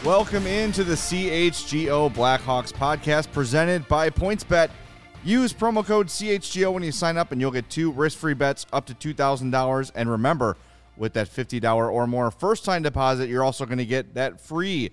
Welcome into the CHGO Blackhawks podcast presented by PointsBet. Use promo code CHGO when you sign up and you'll get 2 risk-free bets up to $2,000. And remember, with that $50 or more first-time deposit, you're also going to get that free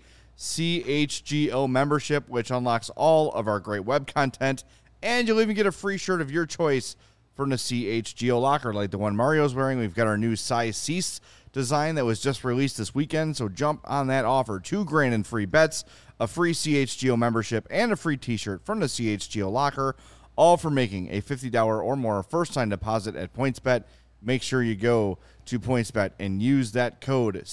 CHGO membership, which unlocks all of our great web content. And you'll even get a free shirt of your choice from the CHGO locker, like the one Mario's wearing. We've got our new size Cease design that was just released this weekend, so jump on that offer. $2,000 in free bets, a free CHGO membership, and a free t-shirt from the CHGO locker, all for making a $50 or more first-time deposit at PointsBet. Make sure you go to PointsBet and use that code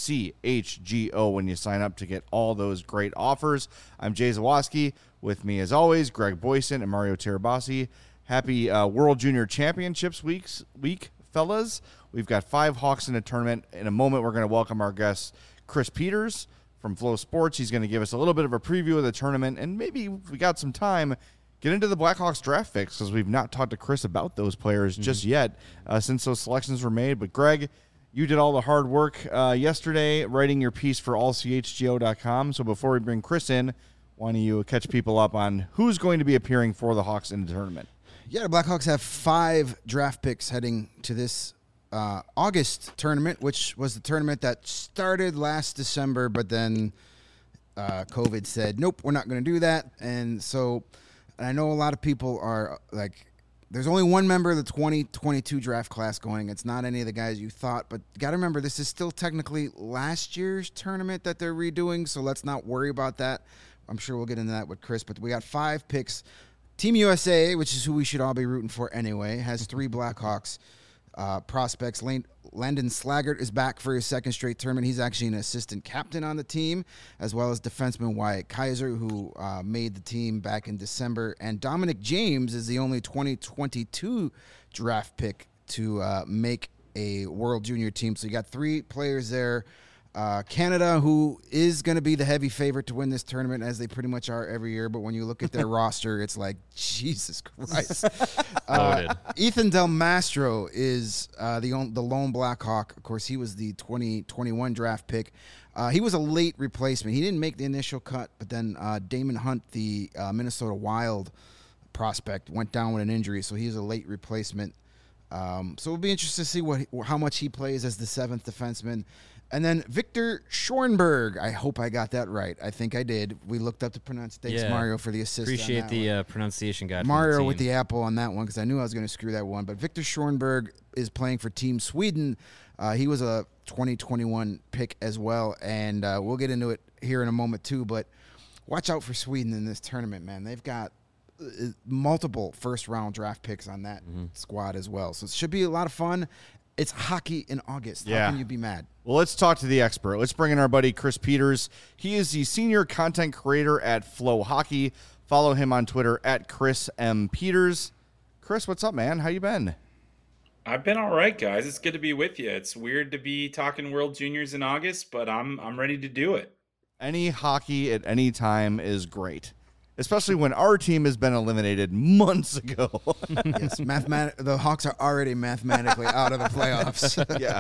CHGO when you sign up to get all those great offers. I'm Jay Zawoski. With me, as always, Greg Boyson and Mario Tirabassi. Happy World Junior Championships week, fellas. We've got 5 Hawks in the tournament. In a moment, we're going to welcome our guest, Chris Peters from Flow Sports. He's going to give us a little bit of a preview of the tournament, and maybe if we got some time, get into the Blackhawks draft picks, because we've not talked to Chris about those players just yet since those selections were made. But, Greg, you did all the hard work yesterday writing your piece for allchgo.com. So before we bring Chris in, why don't you catch people up on who's going to be appearing for the Hawks in the tournament? Yeah, the Blackhawks have 5 draft picks heading to this August tournament, which was the tournament that started last December, but then COVID said, nope, we're not going to do that. And so I know a lot of people are like, there's only one member of the 2022 draft class going. It's not any of the guys you thought, but you got to remember, this is still technically last year's tournament that they're redoing, so let's not worry about that. I'm sure we'll get into that with Chris, but we got 5 picks. Team USA, which is who we should all be rooting for anyway, has 3 Blackhawks prospects. Landon Slaggert is back for his second straight tournament. He's actually an assistant captain on the team, as well as defenseman Wyatt Kaiser, who made the team back in December. And Dominic James is the only 2022 draft pick to make a World Junior team. So you got 3 players there. Canada, who is going to be the heavy favorite to win this tournament, as they pretty much are every year. But when you look at their roster, it's like, Jesus Christ. Ethan Del Mastro is the lone Blackhawk. Of course, he was the 2021 draft pick. He was a late replacement. He didn't make the initial cut, but then Damon Hunt, the Minnesota Wild prospect, went down with an injury, so he's a late replacement. So it'll be interesting to see how much he plays as the 7th defenseman. And then Victor Schoenberg. I hope I got that right. I think I did. We looked up the pronunciation. Thanks, Mario, for the assist. Appreciate the pronunciation guide. Mario with the apple on that one, because I knew I was going to screw that one. But Victor Schoenberg is playing for Team Sweden. He was a 2021 pick as well, and we'll get into it here in a moment too. But watch out for Sweden in this tournament, man. They've got multiple first-round draft picks on that squad as well. So it should be a lot of fun. It's hockey in August. Yeah. How can you be mad? Well, let's talk to the expert. Let's bring in our buddy Chris Peters. He is the senior content creator at Flow Hockey. Follow him on Twitter at Chris M. Peters. Chris, what's up, man? How you been? I've been all right, guys. It's good to be with you. It's weird to be talking World Juniors in August, but I'm ready to do it. Any hockey at any time is great, especially when our team has been eliminated months ago. Yes, the Hawks are already mathematically out of the playoffs.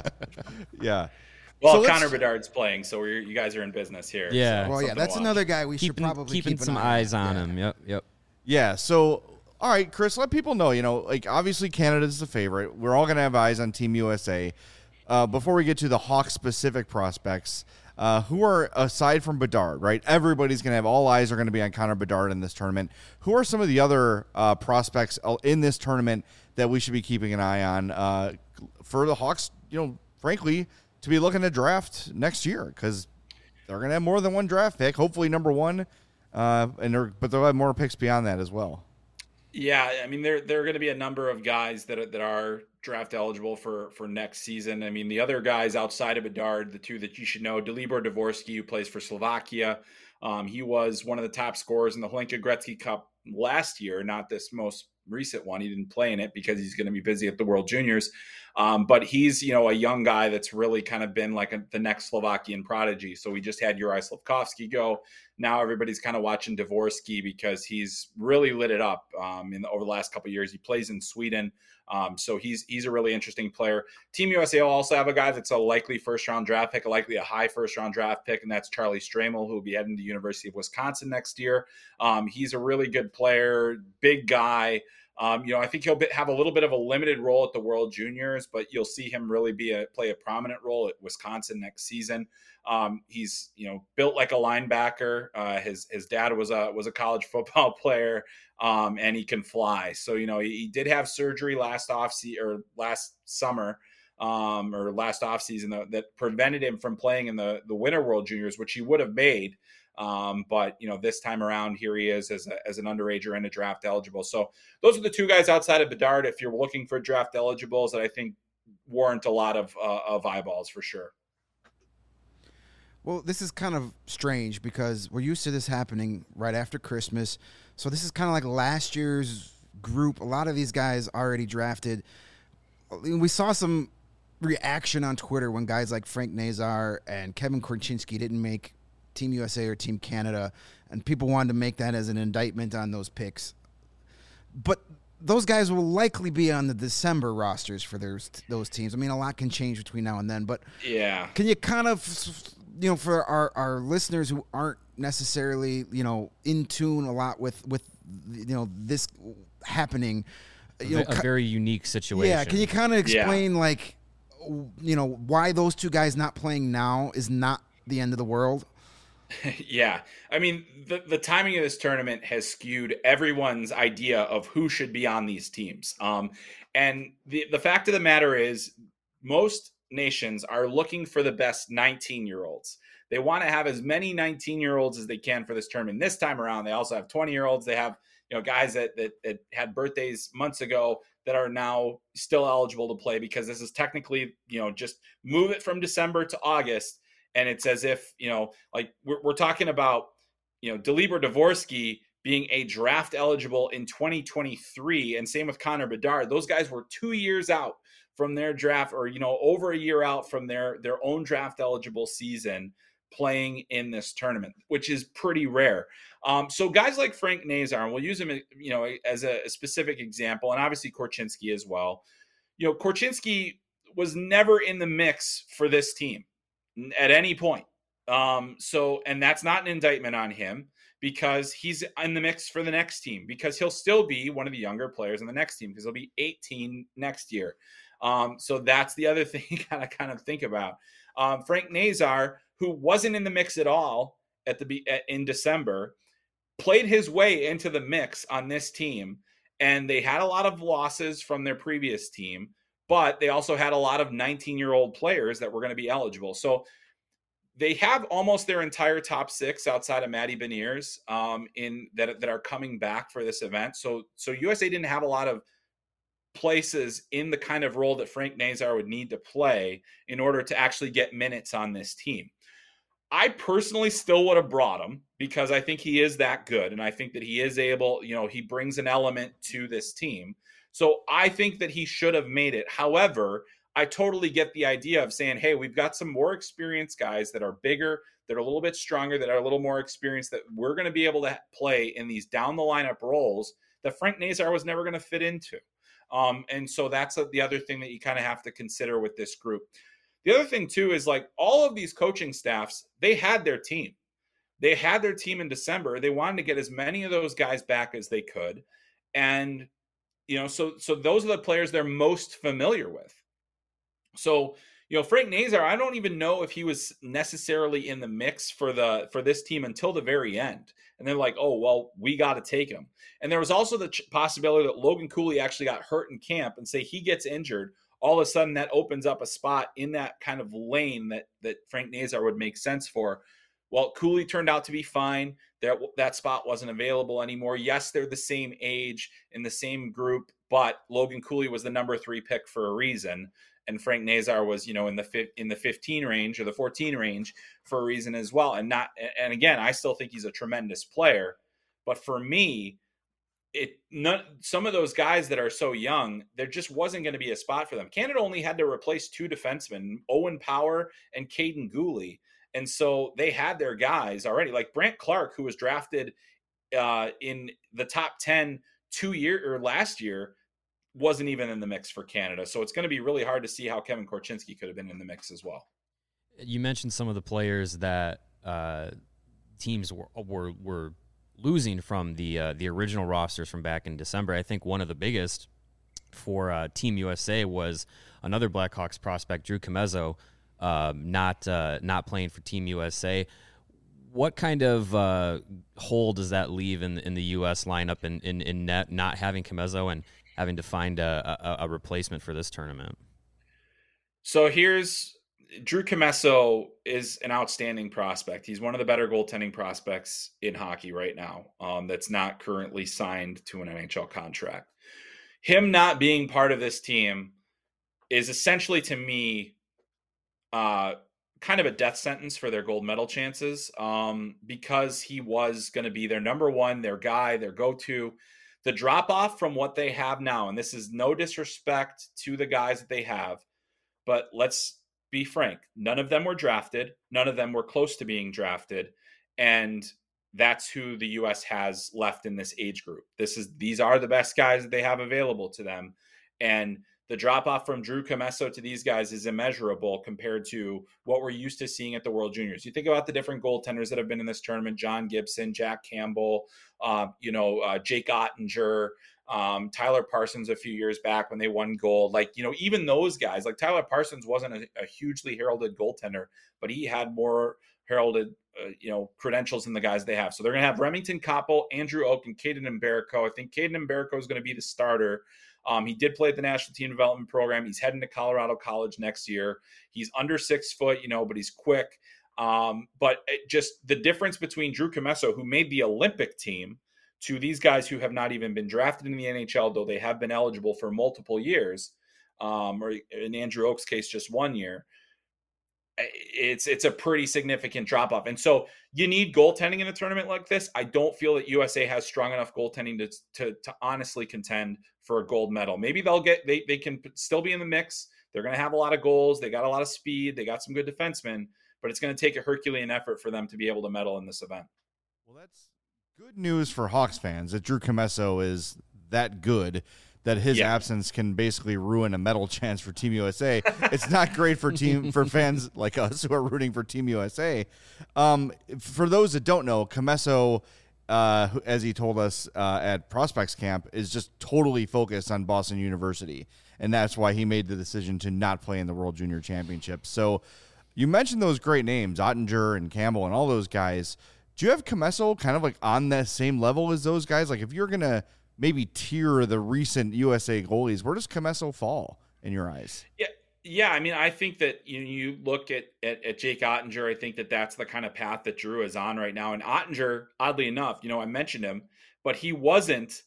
Yeah. Well, so Connor Bedard's playing, so you guys are in business here. Yeah. So well, yeah, that's another guy we should probably keeping keep some eyes on him. Yep. Yeah. So, all right, Chris, let people know. Like obviously Canada's the favorite. We're all gonna have eyes on Team USA. Before we get to the Hawks specific prospects, who are, aside from Bedard, right? Everybody's going to have, all eyes are going to be on Connor Bedard in this tournament. Who are some of the other prospects in this tournament that we should be keeping an eye on for the Hawks, frankly, to be looking to draft next year? Because they're going to have more than one draft pick, hopefully number 1, but they'll have more picks beyond that as well. Yeah, I mean, there are going to be a number of guys that are draft eligible for next season. I mean, the other guys outside of Bedard, the 2 that you should know, Dalibor Dvorsky, who plays for Slovakia. He was one of the top scorers in the Hlinka Gretzky Cup last year, not this most recent one. He didn't play in it because he's going to be busy at the World Juniors. But he's, a young guy that's really kind of been like the next Slovakian prodigy. So we just had Juraj Slafkovsky go. now everybody's kind of watching Dvorsky because he's really lit it up over the last couple of years. He plays in Sweden. So he's a really interesting player. Team USA will also have a guy that's a likely first-round draft pick, likely a high first-round draft pick, and that's Charlie Stramel, who will be heading to the University of Wisconsin next year. He's a really good player, big guy. I think he'll have a little bit of a limited role at the World Juniors, but you'll see him really play a prominent role at Wisconsin next season. He's built like a linebacker. His dad was a college football player, and he can fly. So he did have surgery last summer or last offseason that prevented him from playing in the Winter World Juniors, which he would have made. But this time around, here he is as an underager and a draft eligible. So those are the two guys outside of Bedard, if you're looking for draft eligibles, that I think warrant a lot of eyeballs for sure. Well, this is kind of strange because we're used to this happening right after Christmas. So this is kind of like last year's group. A lot of these guys already drafted. We saw some reaction on Twitter when guys like Frank Nazar and Kevin Korchinski didn't make Team USA or Team Canada, and people wanted to make that as an indictment on those picks. But those guys will likely be on the December rosters for those teams. I mean, a lot can change between now and then, but yeah, can you kind of, for our listeners who aren't necessarily, in tune a lot with this happening, a very unique situation. Yeah, can you kind of explain why those two guys not playing now is not the end of the world? Yeah. I mean, the timing of this tournament has skewed everyone's idea of who should be on these teams. And the fact of the matter is most nations are looking for the best 19-year-olds. They want to have as many 19-year-olds as they can for this tournament. This time around, they also have 20-year-olds. They have, guys that had birthdays months ago that are now still eligible to play, because this is technically, just move it from December to August. And it's as if, we're talking about, Dalibor Dvorsky being a draft eligible in 2023, and same with Connor Bedard. Those guys were 2 years out from their draft, or, over a year out from their own draft eligible season playing in this tournament, which is pretty rare. So guys like Frank Nazar, and we'll use him, as a specific example, and obviously Korchinski as well. Korchinski was never in the mix for this team at any point. And that's not an indictment on him, because he's in the mix for the next team, because he'll still be one of the younger players in the next team, because he'll be 18 next year. So that's the other thing you gotta kind of think about. Frank Nazar, who wasn't in the mix at all in December, played his way into the mix on this team, and they had a lot of losses from their previous team, but they also had a lot of 19-year-old players that were going to be eligible. So they have almost their entire top six outside of Matty Beniers that are coming back for this event. So USA didn't have a lot of places in the kind of role that Frank Nazar would need to play in order to actually get minutes on this team. I personally still would have brought him, because I think he is that good, and I think that he is able, he brings an element to this team. So I think that he should have made it. However, I totally get the idea of saying, hey, we've got some more experienced guys that are bigger, that are a little bit stronger, that are a little more experienced, that we're going to be able to play in these down the lineup roles that Frank Nazar was never going to fit into. And so that's the other thing that you kind of have to consider with this group. The other thing too is, like, all of these coaching staffs, they had their team. They had their team in December. They wanted to get as many of those guys back as they could. And so those are the players they're most familiar with. So, Frank Nazar, I don't even know if he was necessarily in the mix for this team until the very end. And they're like, oh, well, we got to take him. And there was also the possibility that Logan Cooley actually got hurt in camp, and say he gets injured. All of a sudden that opens up a spot in that kind of lane that Frank Nazar would make sense for. Well, Cooley turned out to be fine. That spot wasn't available anymore. Yes, they're the same age in the same group, but Logan Cooley was the number 3 pick for a reason, and Frank Nazar was, in the 15 range or the 14 range for a reason as well. And again, I still think he's a tremendous player, but for me, some of those guys that are so young, there just wasn't going to be a spot for them. Canada only had to replace 2 defensemen, Owen Power and Caden Gooley. And so they had their guys already, like Brant Clark, who was drafted in the top 10 last year, wasn't even in the mix for Canada. So it's going to be really hard to see how Kevin Korchinski could have been in the mix as well. You mentioned some of the players that teams were losing from the original rosters from back in December. I think one of the biggest for Team USA was another Blackhawks prospect, Drew Commesso, not playing for Team USA. What kind of hole does that leave in the U.S. lineup in net, not having Commesso and having to find a replacement for this tournament? So Drew Commesso is an outstanding prospect. He's one of the better goaltending prospects in hockey right now, that's not currently signed to an NHL contract. Him not being part of this team is essentially, to me, kind of a death sentence for their gold medal chances, because he was going to be their number one, their guy, their go-to. The drop-off from what they have now, and this is no disrespect to the guys that they have, but let's be frank, none of them were drafted. None of them were close to being drafted. And that's who the U.S. has left in this age group. These are the best guys that they have available to them. And the drop-off from Drew Commesso to these guys is immeasurable compared to what we're used to seeing at the World Juniors. You think about the different goaltenders that have been in this tournament: John Gibson, Jack Campbell, Jake Ottinger, Tyler Parsons a few years back when they won gold. Even those guys, like Tyler Parsons wasn't a hugely heralded goaltender, but he had more heralded credentials than the guys they have. So they're going to have Remington Koppel, Andrew Oak, and Caden Mbereko. I think Caden Mbereko is going to be the starter. He did play at the National Team Development Program. He's heading to Colorado College next year. He's under 6 foot, but he's quick. But just the difference between Drew Commesso, who made the Olympic team, to these guys who have not even been drafted in the NHL, though they have been eligible for multiple years, or in Andrew Oak's case, just 1 year. It's a pretty significant drop off. And so you need goaltending in a tournament like this. I don't feel that USA has strong enough goaltending to honestly contend for a gold medal. Maybe they can still be in the mix. They're going to have a lot of goals. They got a lot of speed. They got some good defensemen, but it's going to take a Herculean effort for them to be able to medal in this event. Well, that's good news for Hawks fans that Drew Commesso is that good that his absence can basically ruin a medal chance for Team USA. It's not great for fans like us who are rooting for Team USA. For those that don't know, Commesso, as he told us at Prospects Camp, is just totally focused on Boston University, and that's why he made the decision to not play in the World Junior Championship. So you mentioned those great names, Ottinger and Campbell and all those guys. Do you have Commesso kind of like on that same level as those guys? Like if you're going to maybe tier the recent USA goalies, where does Commesso fall in your eyes? Yeah. I mean, I think that you look at Jake Ottinger. I think that that's the kind of path that Drew is on right now. And Ottinger, oddly enough, I mentioned him, but he wasn't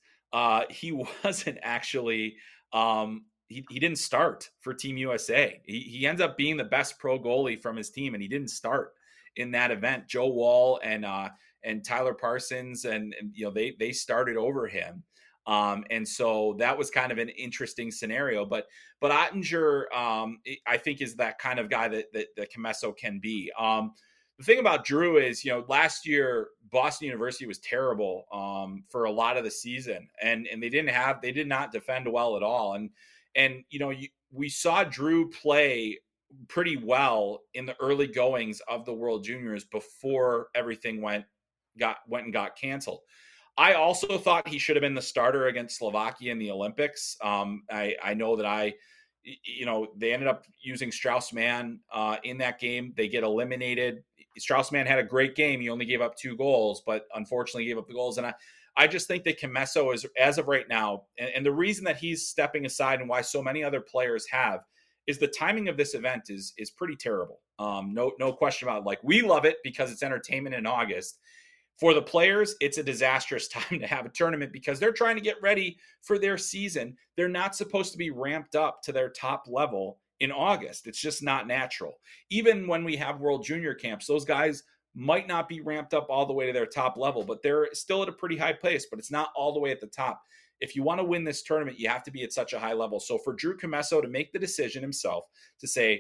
actually. He didn't start for Team USA. He ends up being the best pro goalie from his team, and he didn't start in that event. Joe Wall and Tyler Parsons and they started over him. And so that was kind of an interesting scenario, but Ottinger, I think is that kind of guy that Commesso can be. The thing about Drew is, last year, Boston University was terrible, for a lot of the season, and they did not defend well at all. And we saw Drew play pretty well in the early goings of the World Juniors before everything went and got canceled. I also thought he should have been the starter against Slovakia in the Olympics. I know that they ended up using Strauss-Mann in that game. They get eliminated. Strauss-Mann had a great game. He only gave up 2 goals, but unfortunately gave up the goals. And I just think that Commesso is, as of right now, and the reason that he's stepping aside and why so many other players have, is the timing of this event is pretty terrible. No question about it. Like, we love it because it's entertainment in August. For the players, it's a disastrous time to have a tournament because they're trying to get ready for their season. They're not supposed to be ramped up to their top level in August. It's just not natural. Even when we have World Junior camps, those guys might not be ramped up all the way to their top level, but they're still at a pretty high place, but it's not all the way at the top. If you want to win this tournament, you have to be at such a high level. So for Drew Commesso to make the decision himself to say,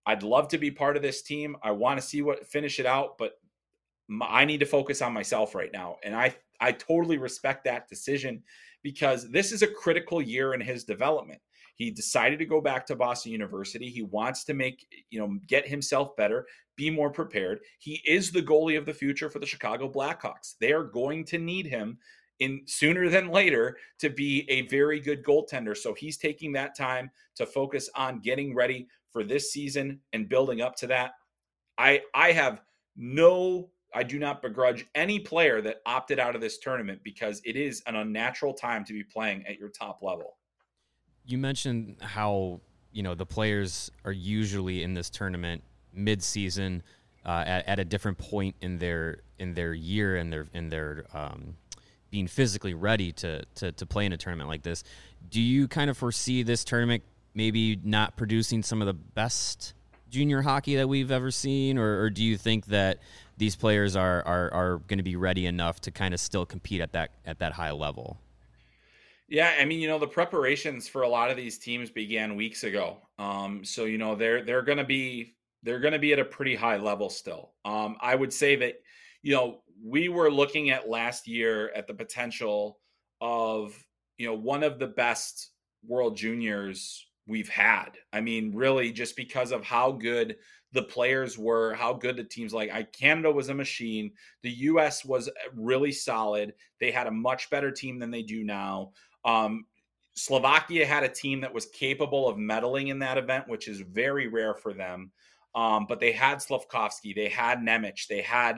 I'd love to be part of this team. I want to see finish it out, but I need to focus on myself right now. And I totally respect that decision because this is a critical year in his development. He decided to go back to Boston University. He wants to get himself better, be more prepared. He is the goalie of the future for the Chicago Blackhawks. They are going to need him in sooner than later to be a very good goaltender. So he's taking that time to focus on getting ready for this season and building up to that. I do not begrudge any player that opted out of this tournament because it is an unnatural time to be playing at your top level. You mentioned how, the players are usually in this tournament mid-season at a different point in their year and their being physically ready to play in a tournament like this. Do you kind of foresee this tournament maybe not producing some of the best junior hockey that we've ever seen, or do you think that these players are going to be ready enough to kind of still compete at that high level? Yeah, I mean, the preparations for a lot of these teams began weeks ago. So they're going to be at a pretty high level still. I would say that we were looking at last year at the potential of one of the best World Juniors we've had. I mean, really, just because of how good the players were, how good the teams Canada was a machine. The U.S. was really solid. They had a much better team than they do now. Slovakia had a team that was capable of medaling in that event, which is very rare for them. But they had Slavkovsky, they had Nemec, they had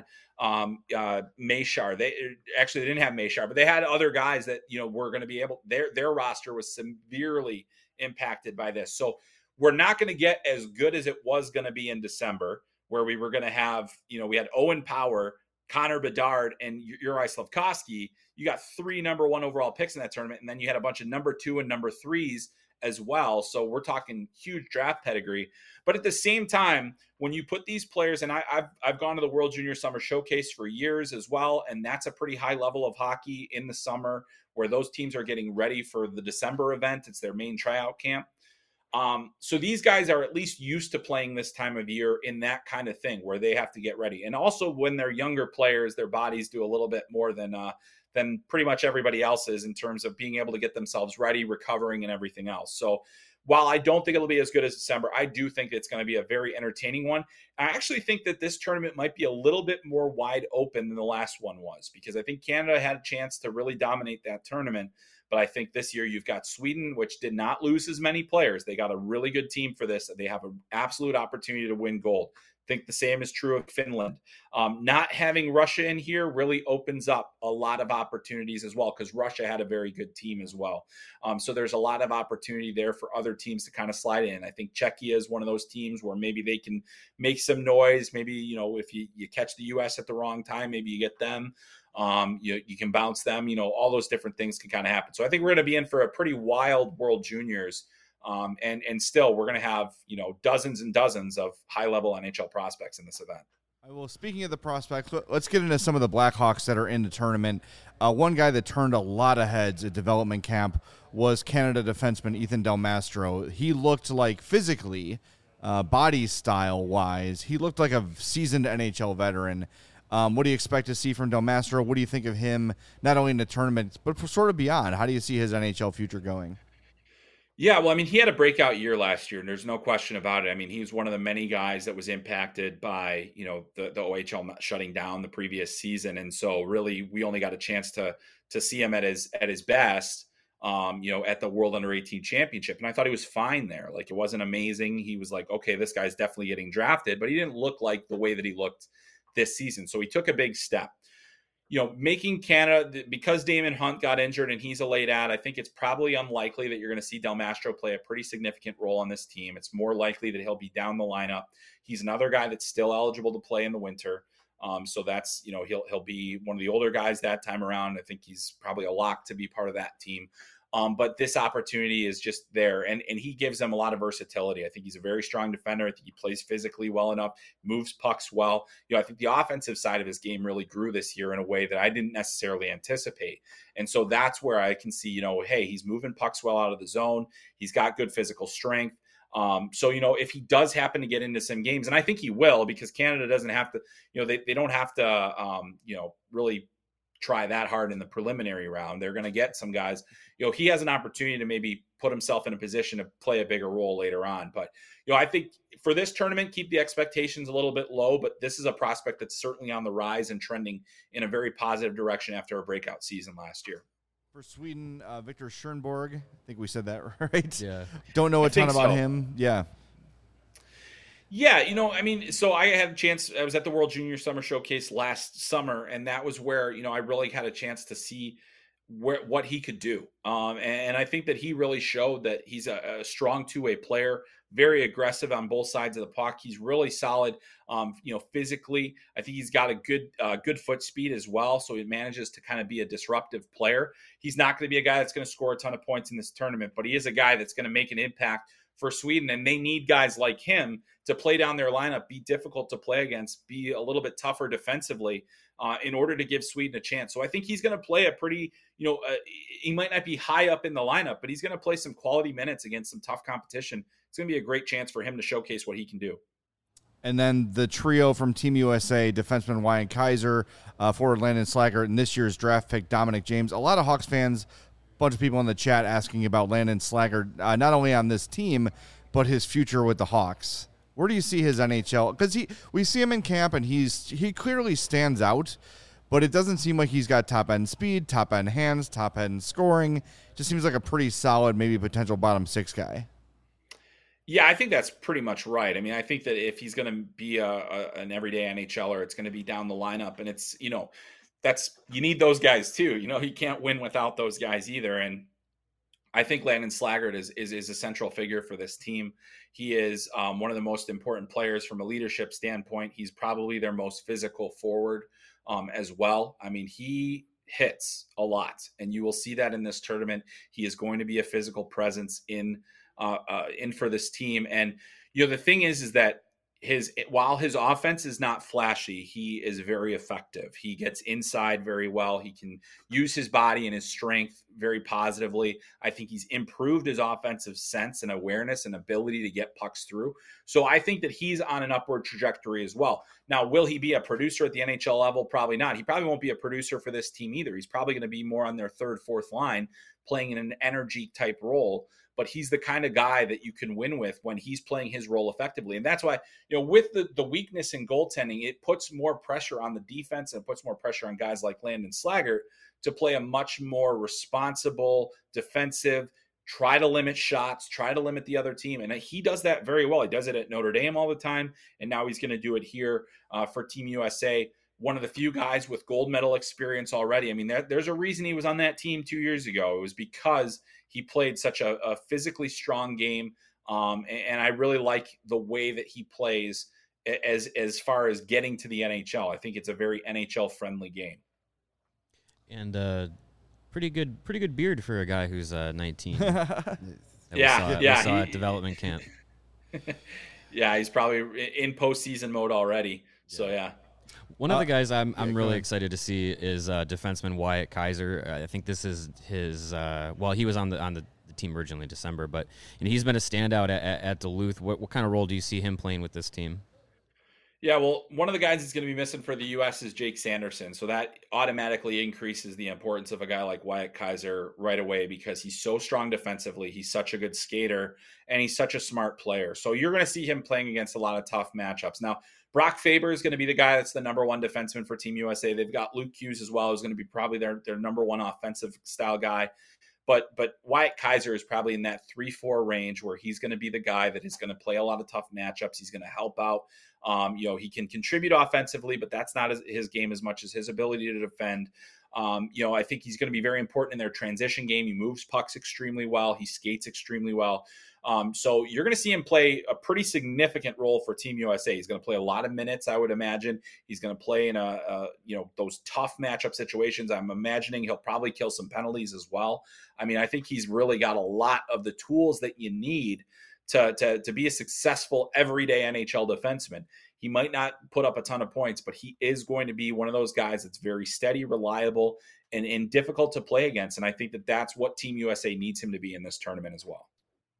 Mashar. They didn't have Mashar, but they had other guys that were going to be able. Their roster was severely impacted by this, so we're not going to get as good as it was going to be in December, where we were going to have we had Owen Power, Connor Bedard, and Uri Slavkovsky. You got 3 number 1 overall picks in that tournament, and then you had a bunch of number 2 and number 3s as well. So we're talking huge draft pedigree. But at the same time, when you put these players, and I've gone to the World Junior Summer Showcase for years as well, and that's a pretty high level of hockey in the summer where those teams are getting ready for the December event. It's their main tryout camp. So these guys are at least used to playing this time of year in that kind of thing where they have to get ready. And also when they're younger players, their bodies do a little bit more than pretty much everybody else is in terms of being able to get themselves ready, recovering, and everything else. So while I don't think it'll be as good as December, I do think it's going to be a very entertaining one. I actually think that this tournament might be a little bit more wide open than the last one was, because I think Canada had a chance to really dominate that tournament. But I think this year you've got Sweden, which did not lose as many players. They got a really good team for this. They have an absolute opportunity to win gold. I think the same is true of Finland. Not having Russia in here really opens up a lot of opportunities as well, because Russia had a very good team as well. So there's a lot of opportunity there for other teams to kind of slide in. I think Czechia is one of those teams where maybe they can make some noise. Maybe, if you catch the U.S. at the wrong time, maybe you get them. You can bounce them. All those different things can kind of happen. So I think we're going to be in for a pretty wild World Juniors. And still, we're going to have, dozens and dozens of high-level NHL prospects in this event. Well, speaking of the prospects, let's get into some of the Blackhawks that are in the tournament. One guy that turned a lot of heads at development camp was Canada defenseman Ethan Del Mastro. He looked like physically, body style-wise, he looked like a seasoned NHL veteran. What do you expect to see from Del Mastro? What do you think of him, not only in the tournament, but sort of beyond? How do you see his NHL future going? Yeah, well, I mean, he had a breakout year last year, and there's no question about it. I mean, he was one of the many guys that was impacted by, the OHL shutting down the previous season. And so really, we only got a chance to see him at his best, at the World Under-18 Championship. And I thought he was fine there. Like, it wasn't amazing. He was like, okay, this guy's definitely getting drafted, but he didn't look like the way that he looked this season. So he took a big step. Making Canada, because Damon Hunt got injured and he's a late ad, I think it's probably unlikely that you're going to see Del Mastro play a pretty significant role on this team. It's more likely that he'll be down the lineup. He's another guy that's still eligible to play in the winter. So that's, he'll be one of the older guys that time around. I think he's probably a lock to be part of that team. But this opportunity is just there, and he gives them a lot of versatility. I think he's a very strong defender. I think he plays physically well enough, moves pucks well. I think the offensive side of his game really grew this year in a way that I didn't necessarily anticipate. And so that's where I can see, hey, he's moving pucks well out of the zone. He's got good physical strength. So, if he does happen to get into some games, and I think he will, because Canada doesn't have to, they don't have to, really try that hard in the preliminary round. They're going to get some guys, he has an opportunity to maybe put himself in a position to play a bigger role later on. But, I think for this tournament, keep the expectations a little bit low, but this is a prospect that's certainly on the rise and trending in a very positive direction after a breakout season last year. For Sweden, Victor Schönborg, I think we said that right. Yeah. Don't know a ton about him. Yeah. Yeah, so I had a chance. I was at the World Junior Summer Showcase last summer, and that was where, I really had a chance to see what he could do. And I think that he really showed that he's a strong two-way player, very aggressive on both sides of the puck. He's really solid, physically. I think he's got a good foot speed as well. So he manages to kind of be a disruptive player. He's not going to be a guy that's going to score a ton of points in this tournament, but he is a guy that's going to make an impact for Sweden. And they need guys like him to play down their lineup, be difficult to play against, be a little bit tougher defensively in order to give Sweden a chance. So I think he's going to play a pretty, he might not be high up in the lineup, but he's going to play some quality minutes against some tough competition. It's going to be a great chance for him to showcase what he can do. And then the trio from Team USA, defenseman Wyatt Kaiser, forward Landon Slaggert, and this year's draft pick Dominic James. A lot of Hawks fans, a bunch of people in the chat asking about Landon Slaggert, not only on this team, but his future with the Hawks. Where do you see his NHL? Because we see him in camp, and he clearly stands out, but it doesn't seem like he's got top-end speed, top-end hands, top-end scoring. Just seems like a pretty solid, maybe potential bottom six guy. Yeah, I think that's pretty much right. I mean, I think that if he's going to be an everyday NHLer, it's going to be down the lineup, and it's, you need those guys too. He can't win without those guys either. And I think Landon Slaggert is a central figure for this team. He is one of the most important players from a leadership standpoint. He's probably their most physical forward as well. I mean, he hits a lot, and you will see that in this tournament. He is going to be a physical presence in for this team. And, the thing is that while his offense is not flashy, he is very effective. He gets inside very well. He can use his body and his strength very positively. I think he's improved his offensive sense and awareness and ability to get pucks through. So I think that he's on an upward trajectory as well. Now, will he be a producer at the NHL level? Probably not. He probably won't be a producer for this team either. He's probably going to be more on their third, fourth line, playing in an energy type role. But he's the kind of guy that you can win with when he's playing his role effectively. And that's why, with the weakness in goaltending, it puts more pressure on the defense and it puts more pressure on guys like Landon Slaggert to play a much more responsible, defensive, try to limit shots, try to limit the other team. And he does that very well. He does it at Notre Dame all the time. And now he's going to do it here for Team USA. One of the few guys with gold medal experience already. I mean, there's a reason he was on that team 2 years ago. It was because he played such a physically strong game. And I really like the way that he plays as far as getting to the NHL. I think it's a very NHL friendly game. And pretty good beard for a guy who's 19. We saw at development camp. Yeah, he's probably in postseason mode already. So yeah. One of the guys I'm really excited to see is defenseman Wyatt Kaiser. I think this is his. He was on the team originally in December, but he's been a standout at Duluth. What kind of role do you see him playing with this team? Yeah, well, one of the guys that's going to be missing for the U.S. is Jake Sanderson. So that automatically increases the importance of a guy like Wyatt Kaiser right away because he's so strong defensively. He's such a good skater, and he's such a smart player. So you're going to see him playing against a lot of tough matchups. Now, Brock Faber is going to be the guy that's the number one defenseman for Team USA. They've got Luke Hughes as well, who's going to be probably their number one offensive style guy. But Wyatt Kaiser is probably in that 3-4 range where he's going to be the guy that is going to play a lot of tough matchups. He's going to help out. He can contribute offensively, but that's not his game as much as his ability to defend. I think he's going to be very important in their transition game. He moves pucks extremely well. He skates extremely well. So you're going to see him play a pretty significant role for Team USA. He's going to play a lot of minutes, I would imagine. He's going to play in those tough matchup situations. I'm imagining he'll probably kill some penalties as well. I mean, I think he's really got a lot of the tools that you need to be a successful everyday NHL defenseman. He might not put up a ton of points, but he is going to be one of those guys that's very steady, reliable, and difficult to play against. And I think that that's what Team USA needs him to be in this tournament as well.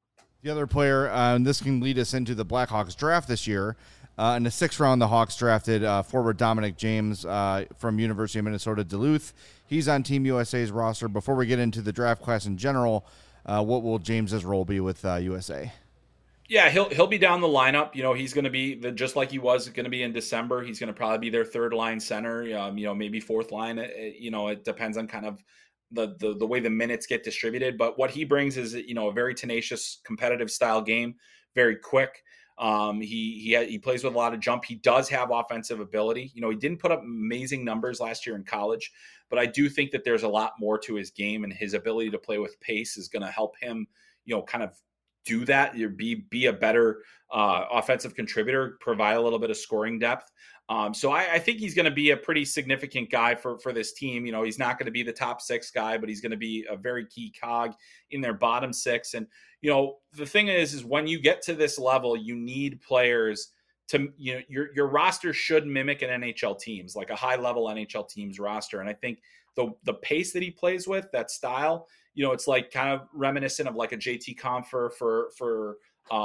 The other player, and this can lead us into the Blackhawks draft this year. In the 6th round, the Hawks drafted forward Dominic James from University of Minnesota Duluth. He's on Team USA's roster. Before we get into the draft class in general, what will James's role be with USA? Yeah, he'll be down the lineup. He's going to be just like he was going to be in December. He's going to probably be their third line center. Maybe fourth line. It depends on kind of the way the minutes get distributed. But what he brings is a very tenacious, competitive style game, very quick. He plays with a lot of jump. He does have offensive ability. He didn't put up amazing numbers last year in college, but I do think that there's a lot more to his game, and his ability to play with pace is going to help him, kind of do that. Be a better offensive contributor, provide a little bit of scoring depth. So I think he's going to be a pretty significant guy for this team. He's not going to be the top 6 guy, but he's going to be a very key cog in their bottom 6. And, the thing is when you get to this level, you need players to, your roster should mimic an NHL team's, like a high level NHL team's roster. And I think the pace that he plays with, that style, it's like kind of reminiscent of like a JT Compher for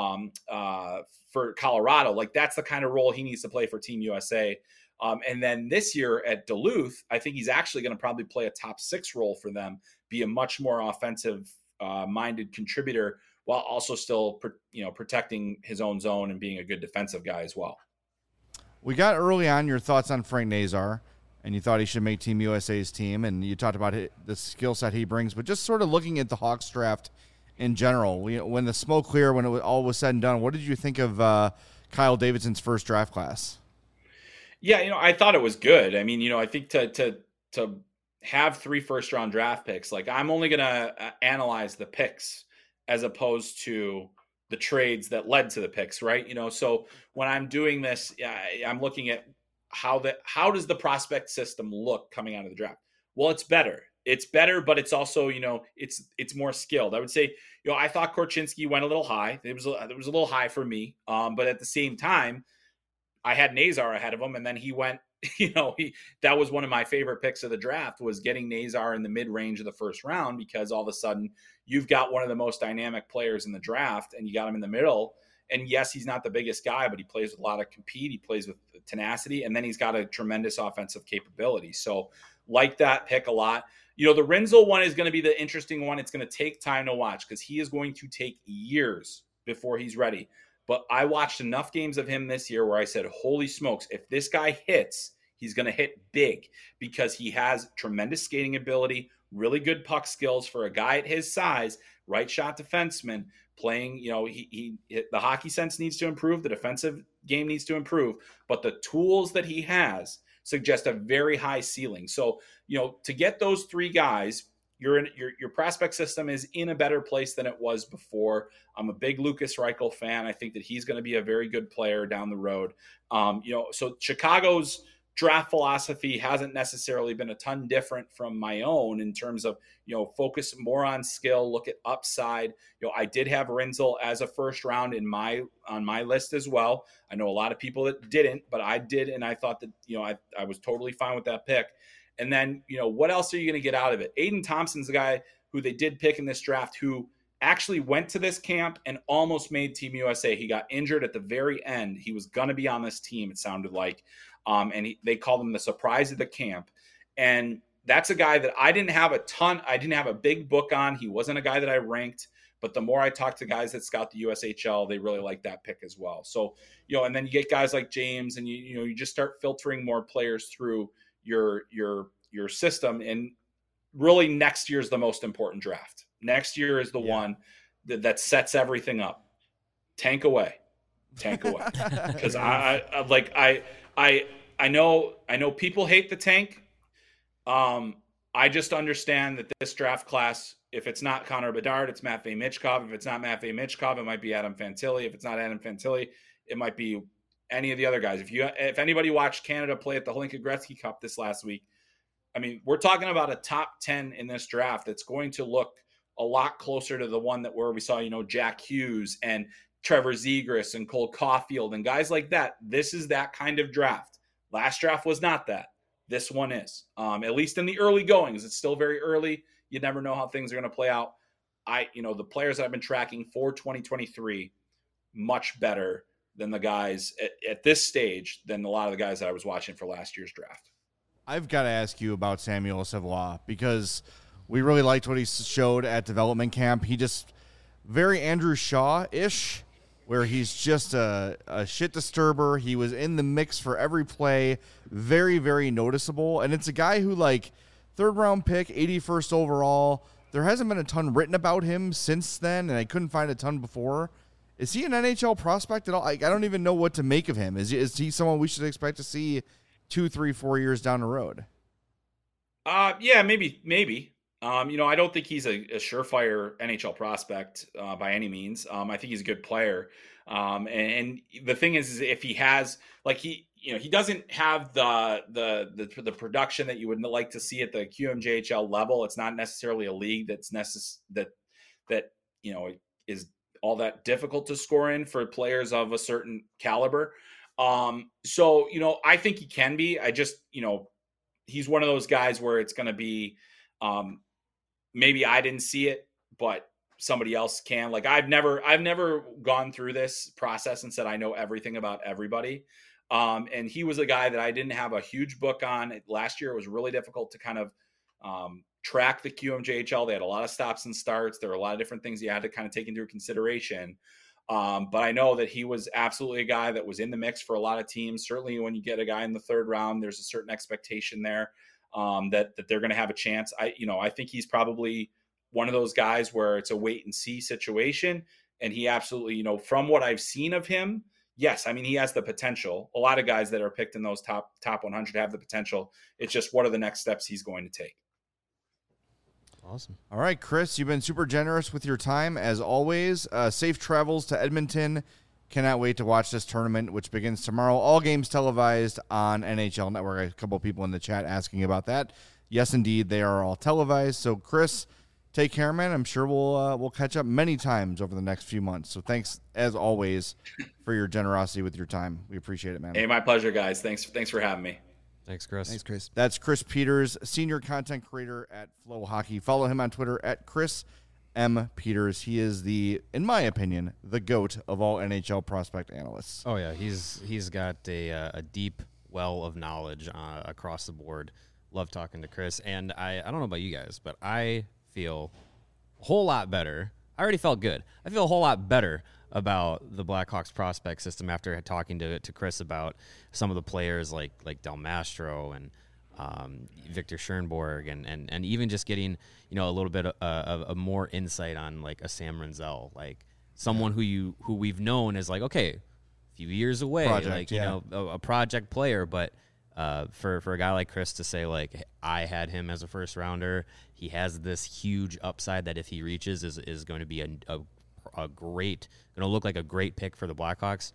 Colorado. Like that's the kind of role he needs to play for Team USA. And then this year at Duluth, I think he's actually going to probably play a top 6 role for them, be a much more offensive minded contributor while also still, protecting his own zone and being a good defensive guy as well. We got early on your thoughts on Frank Nazar, and you thought he should make Team USA's team, and you talked about the skill set he brings, but just sort of looking at the Hawks draft in general, when the smoke cleared, when all was said and done, what did you think of Kyle Davidson's first draft class? Yeah, I thought it was good. I mean, I think to have 3 first-round draft picks, like I'm only going to analyze the picks as opposed to the trades that led to the picks, right? So when I'm doing this, I'm looking at how does the prospect system look coming out of the draft? Well, it's better. It's better, but it's also, it's more skilled. I would say, I thought Korchinski went a little high. It was a little high for me. But at the same time, I had Nazar ahead of him, and then he went, that was one of my favorite picks of the draft, was getting Nazar in the mid-range of the first round, because all of a sudden you've got one of the most dynamic players in the draft and you got him in the middle. And yes, he's not the biggest guy, but he plays with a lot of compete. He plays with tenacity, and then he's got a tremendous offensive capability. So like that pick a lot. The Rinzel one is going to be the interesting one. It's going to take time to watch because he is going to take years before he's ready. But I watched enough games of him this year where I said, holy smokes, if this guy hits, he's going to hit big, because he has tremendous skating ability, really good puck skills for a guy at his size, right shot defenseman, playing, the hockey sense needs to improve. The defensive game needs to improve, but the tools that he has suggest a very high ceiling. So, to get those 3 guys, your prospect system is in a better place than it was before. I'm a big Lucas Reichel fan. I think that he's going to be a very good player down the road. So Chicago's draft philosophy hasn't necessarily been a ton different from my own in terms of, focus more on skill, look at upside. I did have Rinzel as a first round on my list as well. I know a lot of people that didn't, but I did. And I thought that, I was totally fine with that pick. And then, what else are you going to get out of it? Aiden Thompson's the guy who they did pick in this draft, who actually went to this camp and almost made Team USA. He got injured at the very end. He was going to be on this team, it sounded like. They called him the surprise of the camp. And that's a guy that I didn't have a big book on. He wasn't a guy that I ranked, but the more I talk to guys that scout the USHL, they really like that pick as well. So, and then you get guys like James, and you just start filtering more players through your system. And really next year is the most important draft. Next year is the one that sets everything up. Tank away. Because I know people hate the tank. I just understand that this draft class, if it's not Connor Bedard, it's Matvei Michkov. If it's not Matvei Michkov, it might be Adam Fantilli. If it's not Adam Fantilli, it might be any of the other guys. If anybody watched Canada play at the Hlinka Gretzky Cup this last week, I mean, we're talking about a top 10 in this draft that's going to look a lot closer to the one where we saw, Jack Hughes and Trevor Zegras and Cole Caulfield and guys like that. This is that kind of draft. Last draft was not that. This one is, at least in the early goings. It's still very early. You never know how things are going to play out. the players that I've been tracking for 2023, much better than the guys at this stage than a lot of the guys that I was watching for last year's draft. I've got to ask you about Samuel Savoie because we really liked what he showed at development camp. He just very Andrew Shaw-ish, where he's just a shit disturber. He was in the mix for every play, very, very noticeable. And it's a guy who, like, third-round pick, 81st overall. There hasn't been a ton written about him since then, and I couldn't find a ton before. Is he an NHL prospect at all? I don't even know what to make of him. Is he someone we should expect to see 2, 3, 4 years down the road? Yeah, maybe. I don't think he's a surefire NHL prospect by any means. I think he's a good player. And the thing is if he has, like, he doesn't have the production that you would like to see at the QMJHL level. It's not necessarily a league that's that is all that difficult to score in for players of a certain caliber. So I think he can be. I just, he's one of those guys where it's going to be, maybe I didn't see it, but somebody else can. Like, I've never gone through this process and said I know everything about everybody. And he was a guy that I didn't have a huge book on. Last year, it was really difficult to kind of track the QMJHL. They had a lot of stops and starts. There were a lot of different things you had to kind of take into consideration. But I know that he was absolutely a guy that was in the mix for a lot of teams. Certainly when you get a guy in the third round, there's a certain expectation there that they're going to have a chance. I think he's probably one of those guys where it's a wait and see situation. And he absolutely, from what I've seen of him, yes, I mean, he has the potential. A lot of guys that are picked in those top 100 have the potential. It's just what are the next steps he's going to take. Awesome. All right, Chris, you've been super generous with your time, as always. Safe travels to Edmonton. Cannot wait to watch this tournament, which begins tomorrow. All games televised on NHL Network. A couple of people in the chat asking about that. Yes, indeed, they are all televised. So, Chris, take care, man. I'm sure we'll catch up many times over the next few months. So thanks, as always, for your generosity with your time. We appreciate it, man. Hey, my pleasure, guys. Thanks for having me. Thanks, Chris. Thanks, Chris. That's Chris Peters, senior content creator at Flow Hockey. Follow him on Twitter at Chris M. Peters. He is in my opinion, the GOAT of all NHL prospect analysts. Oh yeah, he's got a deep well of knowledge across the board. Love talking to Chris, and I don't know about you guys, but I feel a whole lot better. I already felt good. I feel a whole lot better about the Blackhawks prospect system after talking to Chris about some of the players like Del Mastro and Victor Schoenborg and even just getting a little bit of more insight on like a Sam Renzel, like someone who we've known as like, okay, a few years away, project, a project player, but for a guy like Chris to say like, I had him as a first rounder, he has this huge upside that if he reaches is going to be a great, going to look like a great pick for the Blackhawks.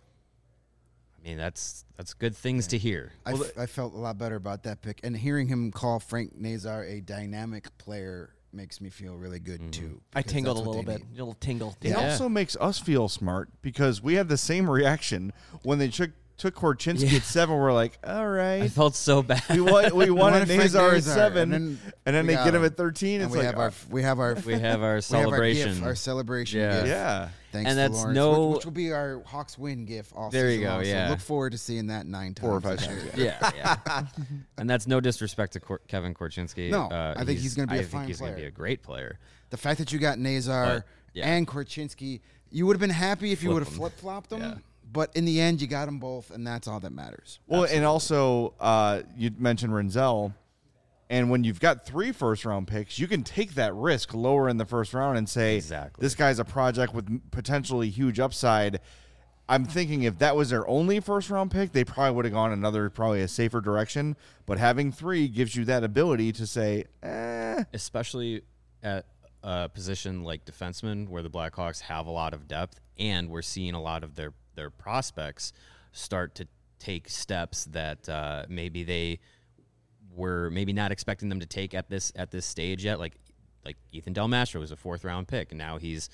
I mean, that's good things to hear. I felt a lot better about that pick, and hearing him call Frank Nazar a dynamic player makes me feel really good too. I tingled a little bit. A little tingle. It also makes us feel smart because we had the same reaction when they took Korchinski at 7. We're like, all right. I felt so bad. We wanted Nazar at 7, and then they get him at 13. And it's we have our celebration. our celebration Yeah. GIF. Yeah. Thanks And to that's Lawrence, which will be our Hawks win GIF all There you season go, long. yeah. So look forward to seeing that 9 times. 4 or 5 this times. year. Yeah. And that's no disrespect to Kevin Korchinski. No, I think he's gonna be a fine I think he's going to player. be a great player. The fact that you got Nazar and Korchinski, you would have been happy if you would have flip-flopped them. Yeah. But in the end, you got them both, and that's all that matters. Well, and also you mentioned Renzel, and when you've got 3 first-round picks, you can take that risk lower in the first round and say, Exactly. this guy's a project with potentially huge upside. I'm thinking if that was their only first-round pick, they probably would have gone probably a safer direction. But having 3 gives you that ability to say, Especially at a position like defenseman where the Blackhawks have a lot of depth, and we're seeing a lot of their prospects start to take steps that maybe they were maybe not expecting them to take at this stage yet. Like Ethan Del Mastro was a 4th-round pick, and now he's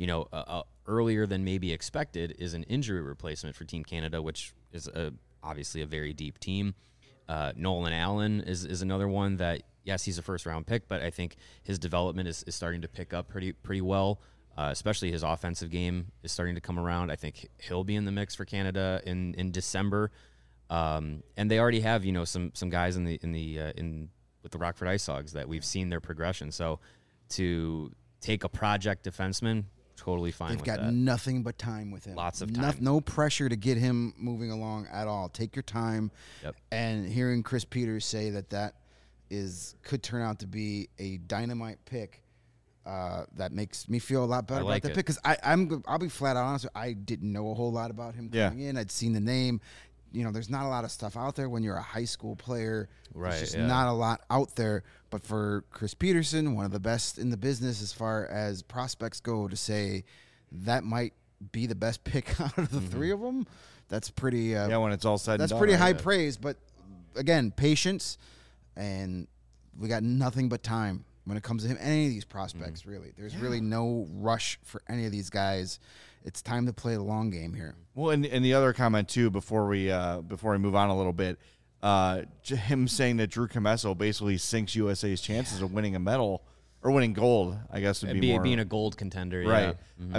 earlier than maybe expected is an injury replacement for Team Canada, which is obviously a very deep team. Nolan Allen is another one that yes, he's a first-round pick, but I think his development is starting to pick up pretty well. Especially his offensive game is starting to come around. I think he'll be in the mix for Canada in December. And they already have, some guys with the Rockford Ice Hogs that we've seen their progression. So to take a project defenseman, totally fine with that. They've got nothing but time with him. Lots of time. No pressure to get him moving along at all. Take your time. Yep. And hearing Chris Peters say that could turn out to be a dynamite pick, that makes me feel a lot better about that pick, because I'll be flat out honest. I didn't know a whole lot about him coming in. I'd seen the name. There's not a lot of stuff out there when you're a high school player. Right. There's just not a lot out there. But for Chris Peterson, one of the best in the business as far as prospects go, to say that might be the best pick out of the three of them, that's pretty. When it's all said and done. That's pretty high praise. But again, patience, and we got nothing but time when it comes to him. Any of these prospects, really. There's really no rush for any of these guys. It's time to play the long game here. Well, and the other comment too, before we move on a little bit, him saying that Drew Commesso basically sinks USA's chances of winning a medal or winning gold, I guess would be more, being a gold contender, right? Yeah. Mm-hmm. I